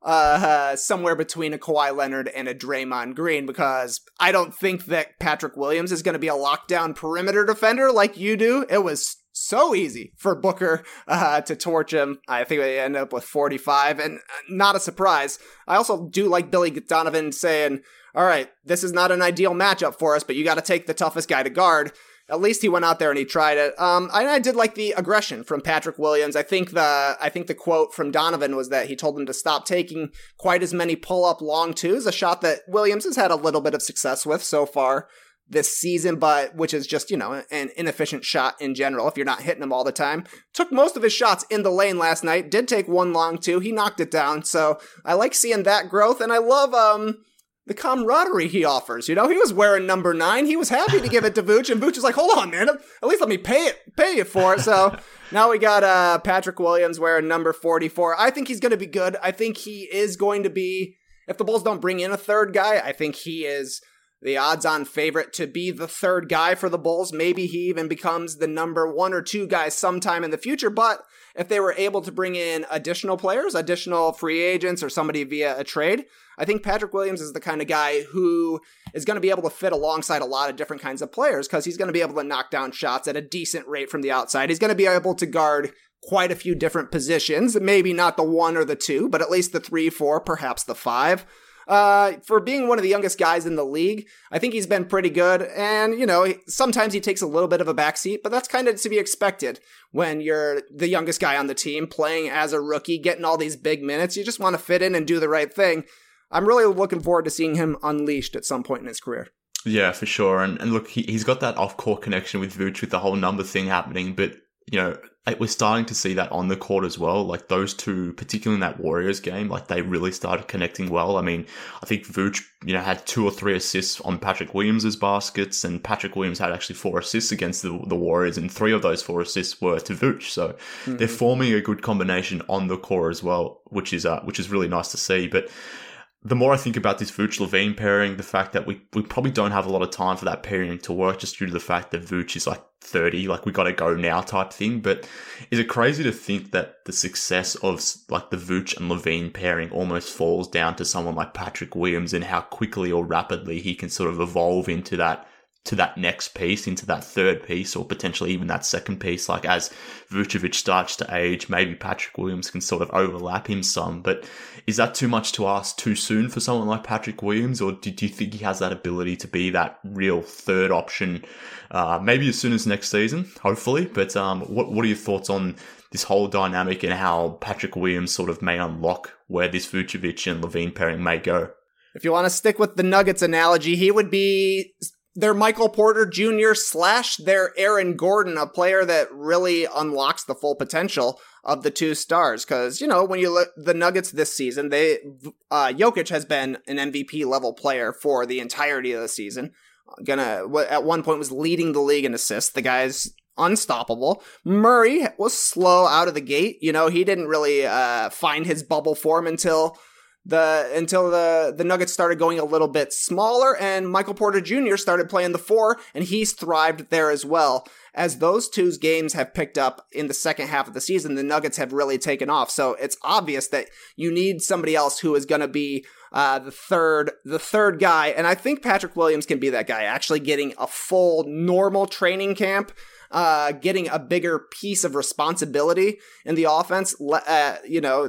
Uh, somewhere between a Kawhi Leonard and a Draymond Green, because I don't think that Patrick Williams is going to be a lockdown perimeter defender like you do. It was so easy for Booker uh, to torch him. I think they ended up with forty-five, and not a surprise. I also do like Billy Donovan saying, all right, this is not an ideal matchup for us, but you got to take the toughest guy to guard. At least he went out there and he tried it. Um, I, I did like the aggression from Patrick Williams. I think the I think the quote from Donovan was that he told him to stop taking quite as many pull-up long twos, a shot that Williams has had a little bit of success with so far this season, but which is just, you know, an inefficient shot in general if you're not hitting them all the time. Took most of his shots in the lane last night, did take one long two, he knocked it down, so I like seeing that growth, and I love... um. the camaraderie he offers. You know, he was wearing number nine. He was happy to give it to Vooch, and Vooch was like, hold on, man. At least let me pay it, pay you for it. So now we got uh, Patrick Williams wearing number forty-four. I think he's going to be good. I think he is going to be, if the Bulls don't bring in a third guy, I think he is the odds-on favorite to be the third guy for the Bulls. Maybe he even becomes the number one or two guy sometime in the future. But if they were able to bring in additional players, additional free agents, or somebody via a trade, I think Patrick Williams is the kind of guy who is going to be able to fit alongside a lot of different kinds of players because he's going to be able to knock down shots at a decent rate from the outside. He's going to be able to guard quite a few different positions, maybe not the one or the two, but at least the three, four, perhaps the five. Uh, for being one of the youngest guys in the league, I think he's been pretty good. And, you know, sometimes he takes a little bit of a backseat, but that's kind of to be expected when you're the youngest guy on the team playing as a rookie, getting all these big minutes. You just want to fit in and do the right thing. I'm really looking forward to seeing him unleashed at some point in his career. Yeah, for sure. And, and look, he, he's got that off-court connection with Vooch with the whole number thing happening, but you know, we're starting to see that on the court as well. Like those two, particularly in that Warriors game, like they really started connecting well. I mean, I think Vooch, you know, had two or three assists on Patrick Williams' baskets, and Patrick Williams had actually four assists against the, the Warriors, and three of those four assists were to Vooch. So mm-hmm. they're forming a good combination on the court as well, which is uh, which is really nice to see. But the more I think about this Vooch-Levine pairing, the fact that we, we probably don't have a lot of time for that pairing to work just due to the fact that Vooch is like thirty, like we got to go now type thing. But is it crazy to think that the success of like the Vooch and Levine pairing almost falls down to someone like Patrick Williams and how quickly or rapidly he can sort of evolve into that to that next piece, into that third piece, or potentially even that second piece. Like as Vucevic starts to age, maybe Patrick Williams can sort of overlap him some. But is that too much to ask too soon for someone like Patrick Williams, or do, do you think he has that ability to be that real third option, uh, maybe as soon as next season, hopefully? But um, what what are your thoughts on this whole dynamic and how Patrick Williams sort of may unlock where this Vucevic and Levine pairing may go? If you want to stick with the Nuggets analogy, he would be their Michael Porter Junior slash their Aaron Gordon, a player that really unlocks the full potential of the two stars. Because, you know, when you look the Nuggets this season, they uh, Jokic has been an M V P level player for the entirety of the season. Gonna at one point was leading the league in assists. The guy's unstoppable. Murray was slow out of the gate. You know, he didn't really uh, find his bubble form until the until the, the Nuggets started going a little bit smaller, and Michael Porter Junior started playing the four, and he's thrived there as well. As those two's games have picked up in the second half of the season, the Nuggets have really taken off. So it's obvious that you need somebody else who is going to be uh, the third the third guy, and I think Patrick Williams can be that guy, actually getting a full normal training camp, uh, getting a bigger piece of responsibility in the offense. Uh, you know,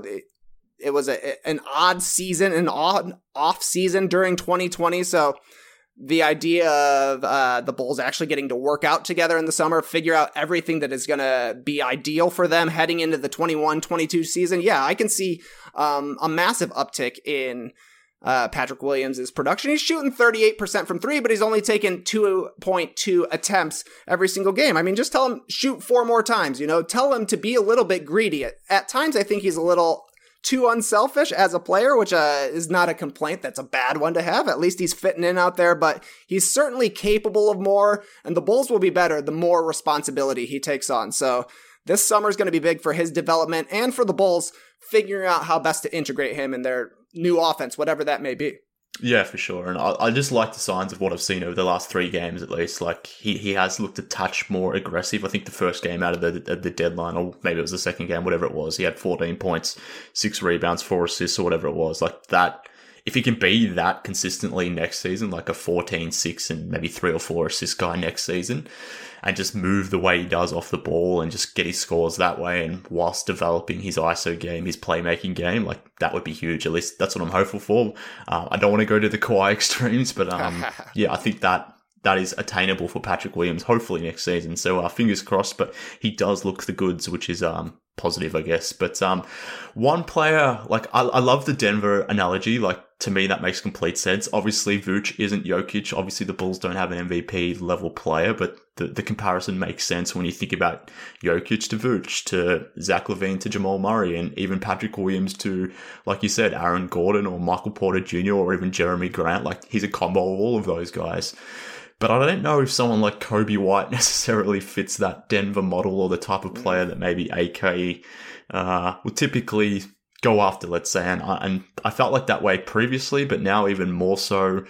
it was a, an odd season, an odd off season during twenty twenty. So the idea of uh, the Bulls actually getting to work out together in the summer, figure out everything that is going to be ideal for them heading into the twenty-one twenty-two season. Yeah, I can see um, a massive uptick in uh, Patrick Williams' production. He's shooting thirty-eight percent from three, but he's only taken two point two attempts every single game. I mean, just tell him shoot four more times, you know, tell him to be a little bit greedy. At, at times, I think he's a little too unselfish as a player, which uh, is not a complaint. That's a bad one to have. At least he's fitting in out there, but he's certainly capable of more, and the Bulls will be better the more responsibility he takes on. So this summer is going to be big for his development and for the Bulls figuring out how best to integrate him in their new offense, whatever that may be. Yeah, for sure. And I, I just like the signs of what I've seen over the last three games, at least. Like, he, he has looked a touch more aggressive. I think the first game out of the, the deadline, or maybe it was the second game, whatever it was, he had fourteen points, six rebounds, four assists, or whatever it was. Like, that, if he can be that consistently next season, like a fourteen, six, and maybe three or four assist guy next season, and just move the way he does off the ball and just get his scores that way, and whilst developing his I S O game, his playmaking game, like, that would be huge. At least that's what I'm hopeful for. Uh, I don't want to go to the Kawhi extremes, but um, yeah, I think that that is attainable for Patrick Williams, hopefully next season. So uh, fingers crossed, but he does look the goods, which is um positive, I guess. But um, one player, like, I, I love the Denver analogy. Like, to me, that makes complete sense. Obviously, Vooch isn't Jokic. Obviously, the Bulls don't have an M V P level player, but the, the comparison makes sense when you think about Jokic to Vooch, to Zach LaVine to Jamal Murray, and even Patrick Williams to, like you said, Aaron Gordon or Michael Porter Junior or even Jeremy Grant. Like, he's a combo of all of those guys. But I don't know if someone like Kobe White necessarily fits that Denver model, or the type of player that maybe A K uh, would typically go after, let's say. And I, and I felt like that way previously, but now even more so.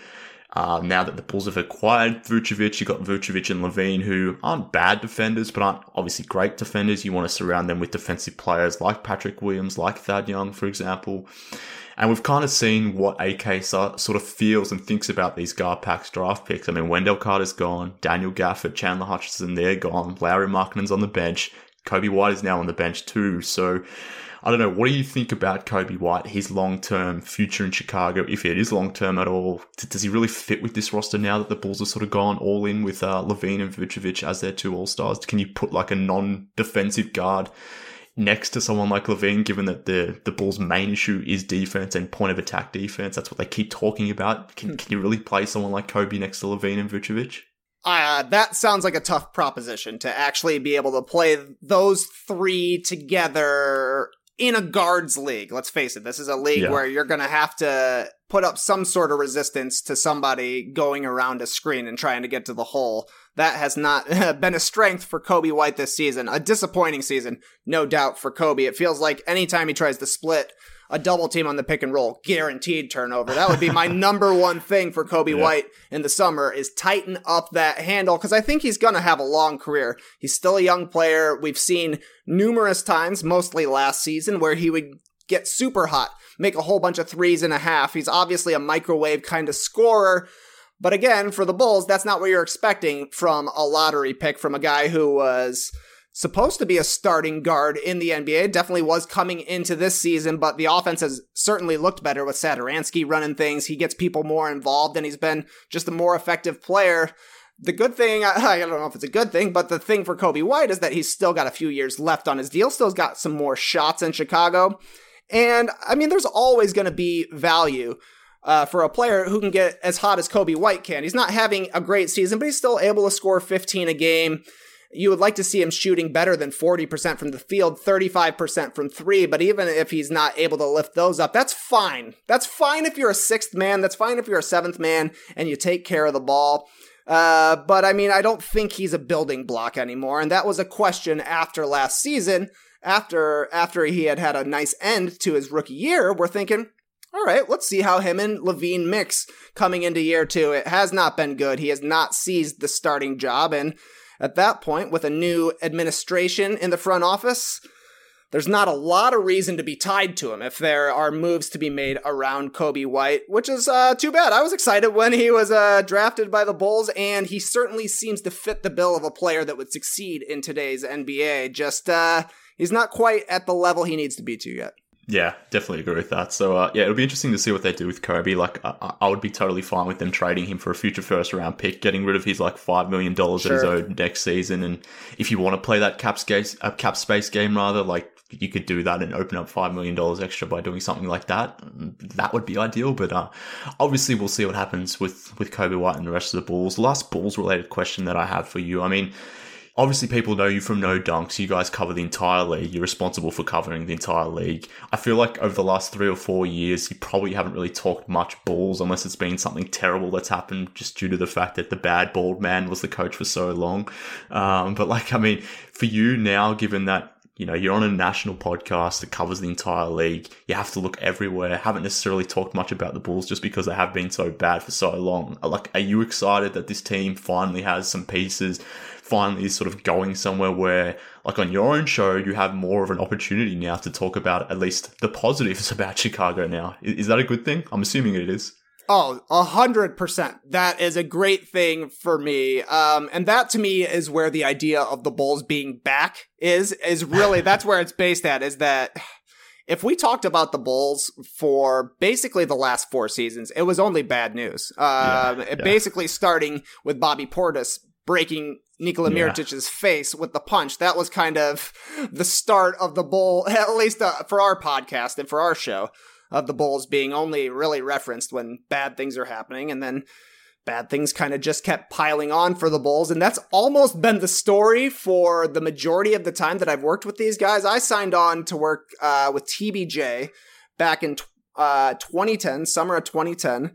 Uh, now that the Bulls have acquired Vucevic, you've got Vucevic and LaVine, who aren't bad defenders, but aren't obviously great defenders. You want to surround them with defensive players like Patrick Williams, like Thad Young, for example. And we've kind of seen what A K sort of feels and thinks about these GarPax draft picks. I mean, Wendell Carter's gone, Daniel Gafford, Chandler Hutchison, they're gone, Lauri Markkanen's on the bench, Coby White is now on the bench too. So I don't know, what do you think about Coby White, his long-term future in Chicago, if it is long-term at all? Does he really fit with this roster now that the Bulls have sort of gone all in with uh, LaVine and Vucevic as their two all-stars? Can you put like a non-defensive guard next to someone like LaVine, given that the, the Bulls' main issue is defense and point-of-attack defense? That's what they keep talking about. Can, can you really play someone like Coby next to LaVine and Vucevic? Uh, that sounds like a tough proposition to actually be able to play those three together in a guards league. Let's face it, this is a league yeah. where you're going to have to put up some sort of resistance to somebody going around a screen and trying to get to the hole. That has not been a strength for Coby White this season. A disappointing season, no doubt, for Coby. It feels like anytime he tries to split a double team on the pick and roll, guaranteed turnover. That would be my number one thing for Coby yeah. White in the summer, is tighten up that handle, because I think he's going to have a long career. He's still a young player. We've seen numerous times, mostly last season, where he would get super hot, make a whole bunch of threes and a half. He's obviously a microwave kind of scorer. But again, for the Bulls, that's not what you're expecting from a lottery pick, from a guy who was supposed to be a starting guard in the N B A. Definitely was coming into this season, but the offense has certainly looked better with Satoransky running things. He gets people more involved, and he's been just a more effective player. The good thing, I don't know if it's a good thing, but the thing for Coby White is that he's still got a few years left on his deal, still got some more shots in Chicago. And, I mean, there's always going to be value Uh, for a player who can get as hot as Coby White can. He's not having a great season, but he's still able to score fifteen a game. You would like to see him shooting better than forty percent from the field, thirty-five percent from three, but even if he's not able to lift those up, that's fine. That's fine if you're a sixth man. That's fine if you're a seventh man and you take care of the ball. Uh, but I mean, I don't think he's a building block anymore, and that was a question after last season. After, after he had had a nice end to his rookie year, we're thinking, all right, let's see how him and LaVine mix coming into year two. It has not been good. He has not seized the starting job. And at that point, with a new administration in the front office, there's not a lot of reason to be tied to him if there are moves to be made around Coby White, which is uh, too bad. I was excited when he was uh, drafted by the Bulls, and he certainly seems to fit the bill of a player that would succeed in today's N B A. Just, uh, he's not quite at the level he needs to be to yet. Yeah, definitely agree with that. So, uh, yeah, it'll be interesting to see what they do with Coby. Like, I, I would be totally fine with them trading him for a future first-round pick, getting rid of his, like, five million dollars sure. that he's owed next season. And if you want to play that cap space, uh, cap space game, rather, like, you could do that and open up five million dollars extra by doing something like that. That would be ideal. But uh, obviously, we'll see what happens with, with Coby White and the rest of the Bulls. Last Bulls-related question that I have for you. I mean, obviously, people know you from No Dunks. You guys cover the entire league. You're responsible for covering the entire league. I feel like over the last three or four years, you probably haven't really talked much Bulls unless it's been something terrible that's happened just due to the fact that the bad bald man was the coach for so long. Um, but like, I mean, for you now, given that, you know, you're on a national podcast that covers the entire league, you have to look everywhere. Haven't necessarily talked much about the Bulls just because they have been so bad for so long. Like, are you excited that this team finally has some pieces, finally is sort of going somewhere where, like on your own show, you have more of an opportunity now to talk about at least the positives about Chicago now? Is that a good thing? I'm assuming it is. Oh, a hundred percent. That is a great thing for me. Um, and that to me is where the idea of the Bulls being back is, is really, that's where it's based at, is that if we talked about the Bulls for basically the last four seasons, it was only bad news. Uh, yeah, yeah. Basically starting with Bobby Portis breaking Nikola yeah. Mirotic's face with the punch. That was kind of the start of the Bull, at least uh, for our podcast and for our show, of the Bulls being only really referenced when bad things are happening, and then bad things kind of just kept piling on for the Bulls, and that's almost been the story for the majority of the time that I've worked with these guys. I signed on to work uh, with T B J back in uh, twenty ten, summer of twenty ten.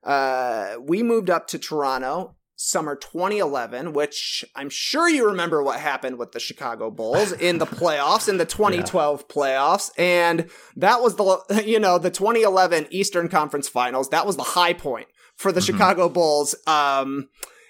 Uh, we moved up to Toronto summer twenty eleven, which I'm sure you remember what happened with the Chicago Bulls in the playoffs, in the twenty twelve yeah. playoffs. And that was the, you know, the twenty eleven Eastern Conference Finals. That was the high point for the Mm-hmm. Chicago Bulls um,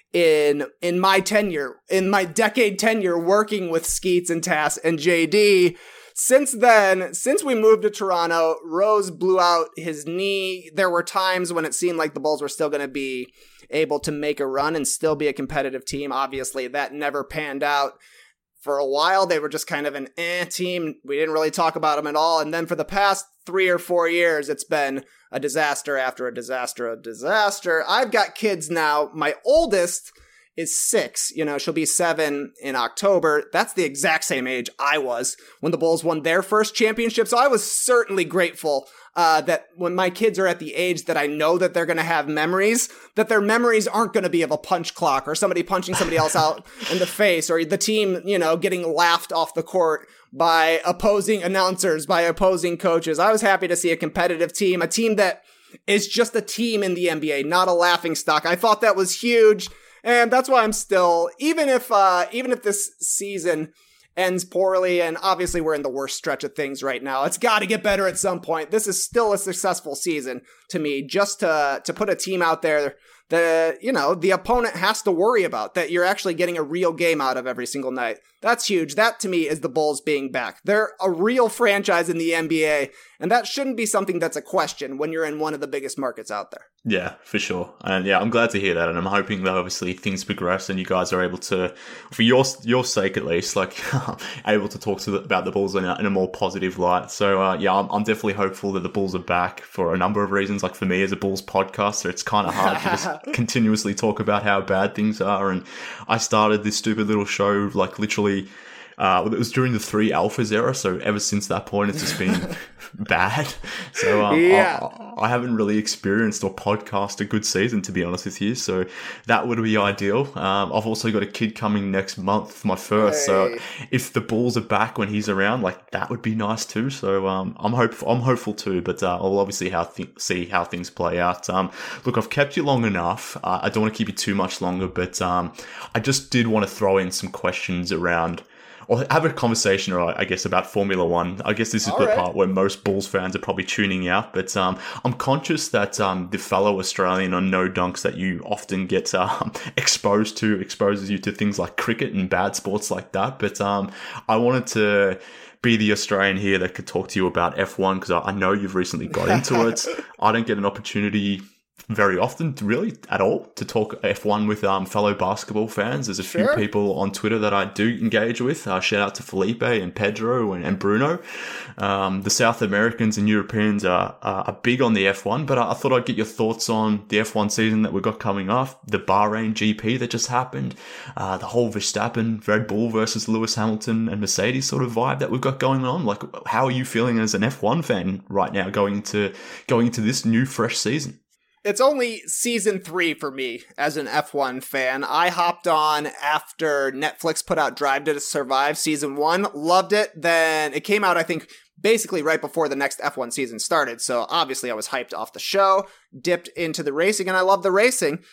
in in my tenure, in my decade tenure working with Skeets and Tass and J D. Since then, since we moved to Toronto, Rose blew out his knee. There were times when it seemed like the Bulls were still going to be able to make a run and still be a competitive team. Obviously, that never panned out. For a while, they were just kind of an eh team. We didn't really talk about them at all. And then for the past three or four years, it's been a disaster after a disaster, a disaster. I've got kids now. My oldest is six. You know, she'll be seven in October. That's the exact same age I was when the Bulls won their first championship. So I was certainly grateful uh, that when my kids are at the age that I know that they're going to have memories, that their memories aren't going to be of a punch clock or somebody punching somebody else out in the face or the team, you know, getting laughed off the court by opposing announcers, by opposing coaches. I was happy to see a competitive team, a team that is just a team in the N B A, not a laughing stock. I thought that was huge. And that's why I'm still, even if uh, even if this season ends poorly, and obviously we're in the worst stretch of things right now, it's got to get better at some point. This is still a successful season to me, just to to put a team out there that, you know, the opponent has to worry about, that you're actually getting a real game out of every single night. That's huge. That, to me, is the Bulls being back. They're a real franchise in the N B A, and that shouldn't be something that's a question when you're in one of the biggest markets out there. Yeah, for sure. And yeah, I'm glad to hear that. And I'm hoping that obviously things progress and you guys are able to, for your your sake at least, like able to talk to the, about the Bulls in a, in a more positive light. So uh, yeah, I'm, I'm definitely hopeful that the Bulls are back for a number of reasons. Like for me as a Bulls podcaster, it's kind of hard to just continuously talk about how bad things are. And I started this stupid little show like literally Uh, it was during the three alphas era, so ever since that point, it's just been bad. So um, yeah. I, I haven't really experienced or podcast a good season, to be honest with you. So that would be ideal. Um, I've also got a kid coming next month, my first. Hey. So if the Bulls are back when he's around, like that would be nice too. So um, I'm hopeful. I'm hopeful too. But uh, I'll obviously how th- see how things play out. Um, look, I've kept you long enough. Uh, I don't want to keep you too much longer, but um, I just did want to throw in some questions around. Or have a conversation, or I guess, about Formula One. I guess this is All the right. part where most Bulls fans are probably tuning out. But um, I'm conscious that um, the fellow Australian on No Dunks that you often get um, exposed to exposes you to things like cricket and bad sports like that. But um, I wanted to be the Australian here that could talk to you about F one because I know you've recently got into it. I don't get an opportunity very often, really, at all, to talk F one with um, fellow basketball fans. There's a few sure. people on Twitter that I do engage with. Uh, shout out to Felipe and Pedro and, and Bruno. Um, the South Americans and Europeans are, are, are big on the F one, but I, I thought I'd get your thoughts on the F one season that we've got coming up, the Bahrain G P that just happened, uh, the whole Verstappen, Red Bull versus Lewis Hamilton and Mercedes sort of vibe that we've got going on. Like, how are you feeling as an F one fan right now going into, going into this new, fresh season? It's only season three for me as an F one fan. I hopped on after Netflix put out Drive to Survive season one, loved it. Then it came out, I think, basically right before the next F one season started. So obviously I was hyped off the show, dipped into the racing, and I love the racing.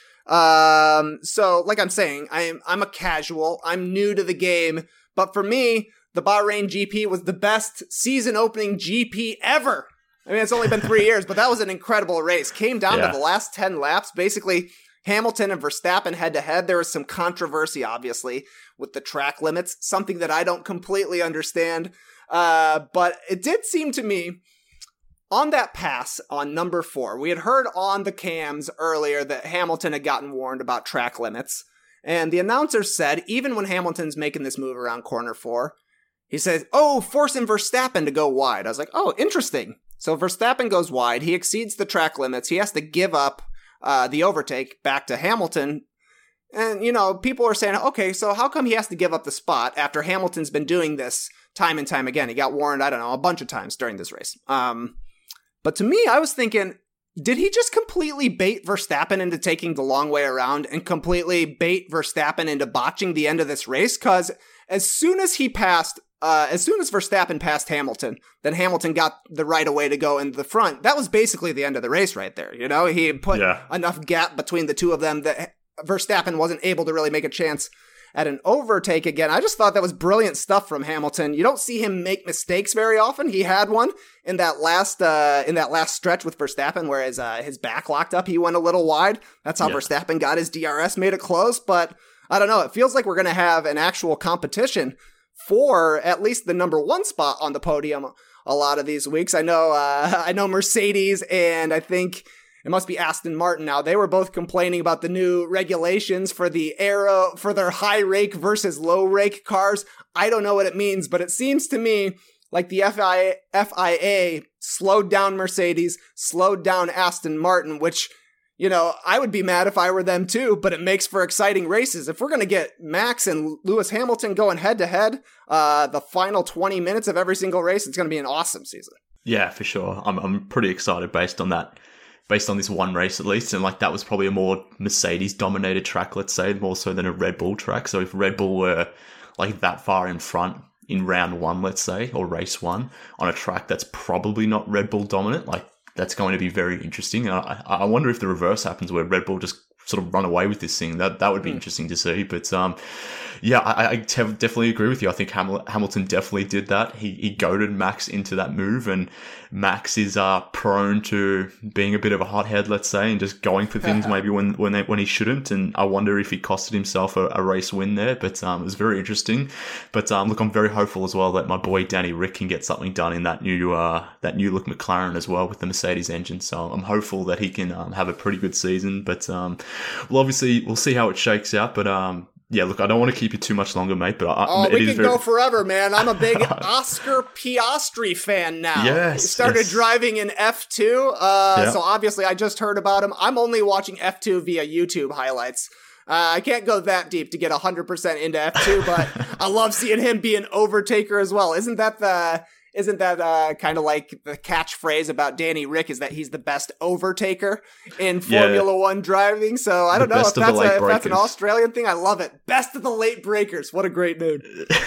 Um, so like I'm saying, I'm, I'm a casual, I'm new to the game, but for me, the Bahrain G P was the best season opening G P ever. I mean, it's only been three years, but that was an incredible race. Came down yeah. to the last ten laps. Basically, Hamilton and Verstappen head-to-head. There was some controversy, obviously, with the track limits, something that I don't completely understand. Uh, but it did seem to me, on that pass on number four, we had heard on the cams earlier that Hamilton had gotten warned about track limits. And the announcer said, even when Hamilton's making this move around corner four, he says, oh, forcing Verstappen to go wide. I was like, oh, interesting. So Verstappen goes wide. He exceeds the track limits. He has to give up uh, the overtake back to Hamilton. And, you know, people are saying, okay, so how come he has to give up the spot after Hamilton's been doing this time and time again? He got warned, I don't know, a bunch of times during this race. Um, but to me, I was thinking, did he just completely bait Verstappen into taking the long way around and completely bait Verstappen into botching the end of this race? Because as soon as he passed Uh, as soon as Verstappen passed Hamilton, then Hamilton got the right of way to go in the front. That was basically the end of the race right there. You know, he put yeah. enough gap between the two of them that Verstappen wasn't able to really make a chance at an overtake again. I just thought that was brilliant stuff from Hamilton. You don't see him make mistakes very often. He had one in that last uh, in that last stretch with Verstappen, where his, uh, his back locked up. He went a little wide. That's how yeah. Verstappen got his D R S, made it close. But I don't know. It feels like we're going to have an actual competition for at least the number one spot on the podium a lot of these weeks. I know, uh, I know Mercedes, and I think it must be Aston Martin now. They were both complaining about the new regulations for the aero, for their high rake versus low rake cars. I don't know what it means, but it seems to me like the F I A slowed down Mercedes, slowed down Aston Martin, which, you know, I would be mad if I were them too, but it makes for exciting races. If we're going to get Max and Lewis Hamilton going head to head, uh, the final twenty minutes of every single race, it's going to be an awesome season. Yeah, for sure. I'm I'm pretty excited based on that, based on this one race at least. And like that was probably a more Mercedes dominated track, let's say, more so than a Red Bull track. So if Red Bull were like that far in front in round one, let's say, or race one on a track that's probably not Red Bull dominant, like, that's going to be very interesting. And I, I wonder if the reverse happens where Red Bull just sort of run away with this thing. That that would be mm. interesting to see. But um, yeah, I, I definitely agree with you. I think Hamil- Hamilton definitely did that. He he goaded Max into that move, and Max is uh, prone to being a bit of a hothead, let's say, and just going for things maybe when when they, when he shouldn't. And I wonder if he costed himself a, a race win there. But um, it was very interesting. But um, look, I'm very hopeful as well that my boy Danny Rick can get something done in that new uh, that new look McLaren as well with the Mercedes engine. So I'm hopeful that he can um, have a pretty good season. But um, well, obviously we'll see how it shakes out. But um. Yeah, look, I don't want to keep you too much longer, mate, but I, oh, it we is can very... go forever, man. I'm a big Oscar Piastri fan now. Yes, he started yes. driving in F two, uh, yeah. so obviously I just heard about him. I'm only watching F two via YouTube highlights. Uh, I can't go that deep to get one hundred percent into F two, but I love seeing him be an overtaker as well. Isn't that the... Isn't that uh, kind of like the catchphrase about Danny Rick, is that he's the best overtaker in Formula yeah. One driving? So I don't the know if that's, a, if that's an Australian thing. I love it. Best of the late breakers. What a great dude.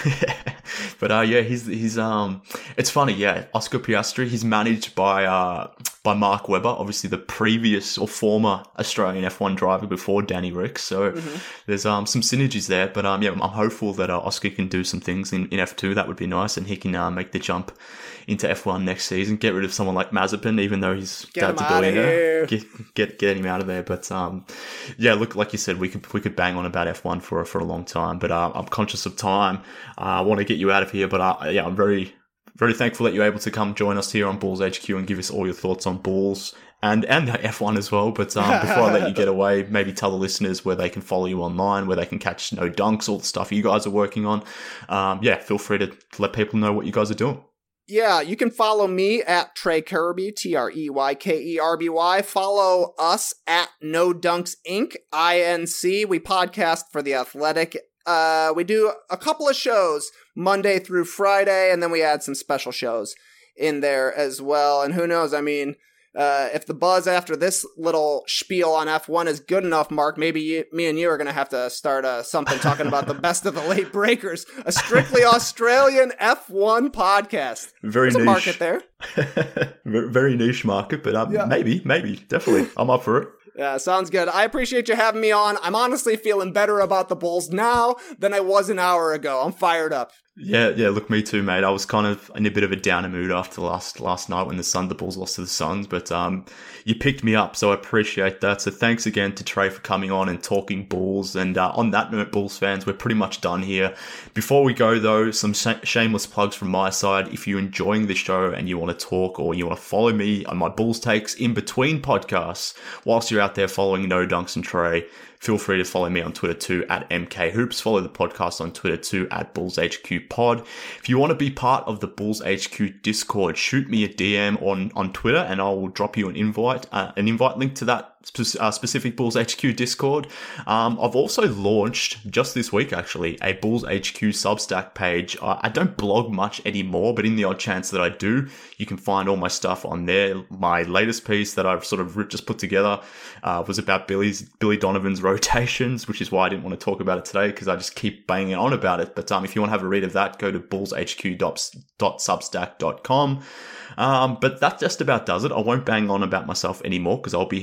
But uh, yeah, he's he's um, it's funny. Yeah, Oscar Piastri. He's managed by uh by Mark Webber, obviously the previous or former Australian F one driver before Danny Rick. So mm-hmm. there's um some synergies there. But um yeah, I'm hopeful that uh, Oscar can do some things in, in F two. That would be nice, and he can uh, make the jump into F one next season. Get rid of someone like Mazepin, even though he's dad's a billionaire. Get, get get him out of there. But um, yeah, look, like you said, we could we could bang on about F one for for a long time. But uh, I'm conscious of time. Uh, I want to get you out of here. But uh, yeah, I'm very very thankful that you're able to come join us here on Bulls H Q and give us all your thoughts on Bulls and and F one as well. But um, before I let you get away, maybe tell the listeners where they can follow you online, where they can catch No Dunks, all the stuff you guys are working on. Um, yeah, feel free to let people know what you guys are doing. Yeah, you can follow me at Trey Kirby, T R E Y K E R B Y. Follow us at No Dunks Incorporated, I N C. We podcast for The Athletic. Uh, we do a couple of shows Monday through Friday, and then we add some special shows in there as well. And who knows, I mean, uh, if the buzz after this little spiel on F one is good enough, Mark, maybe you, me and you are going to have to start uh, something talking about the best of the late breakers, a strictly Australian F one podcast. Very There's niche. a market there. Very niche market, but um, yeah. maybe, maybe, definitely. I'm up for it. Yeah, sounds good. I appreciate you having me on. I'm honestly feeling better about the Bulls now than I was an hour ago. I'm fired up. Yeah, yeah, look, me too, mate. I was kind of in a bit of a downer mood after last last night when the Sun, the Bulls lost to the Suns, but um, you picked me up, so I appreciate that. So thanks again to Trey for coming on and talking Bulls. And uh, on that note, Bulls fans, we're pretty much done here. Before we go, though, some sh- shameless plugs from my side. If you're enjoying the show and you want to talk or you want to follow me on my Bulls takes in between podcasts, whilst you're out there following No Dunks and Trey, feel free to follow me on Twitter too at M K Hoops. Follow the podcast on Twitter too at Bulls H Q Pod. If you want to be part of the Bulls H Q Discord, shoot me a D M on, on Twitter and I will drop you an invite, uh, an invite link to that spe- uh, specific Bulls H Q Discord. Um, I've also launched just this week actually a Bulls H Q Substack page. Uh, I don't blog much anymore, but in the odd chance that I do, you can find all my stuff on there. My latest piece that I've sort of just put together uh, was about Billy's Billy Donovan's rotations, which is why I didn't want to talk about it today because I just keep banging on about it. But um, if you want to have a read of that, go to bulls h q dot substack dot com. Um, but that just about does it. I won't bang on about myself anymore because I'll be here all day.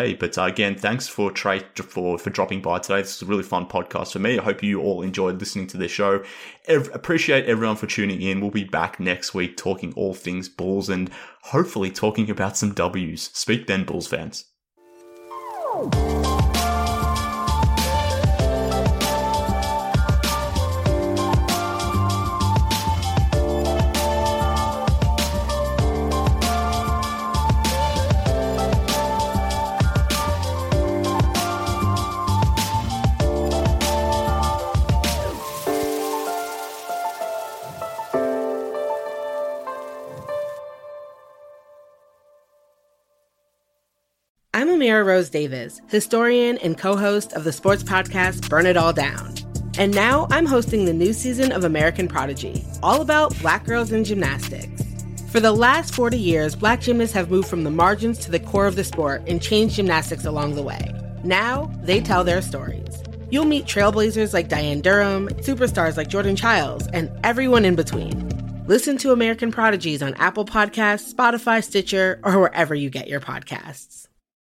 day. But uh, again, thanks for Trey for, for dropping by today. This is a really fun podcast for me. I hope you all enjoyed listening to this show. Ev- appreciate everyone for tuning in. We'll be back next week talking all things Bulls and hopefully talking about some W's. Speak then, Bulls fans. I'm Amira Rose Davis, historian and co-host of the sports podcast Burn It All Down. And now I'm hosting the new season of American Prodigy, all about Black girls in gymnastics. For the last forty years, Black gymnasts have moved from the margins to the core of the sport and changed gymnastics along the way. Now, they tell their stories. You'll meet trailblazers like Diane Durham, superstars like Jordan Childs, and everyone in between. Listen to American Prodigies on Apple Podcasts, Spotify, Stitcher, or wherever you get your podcasts.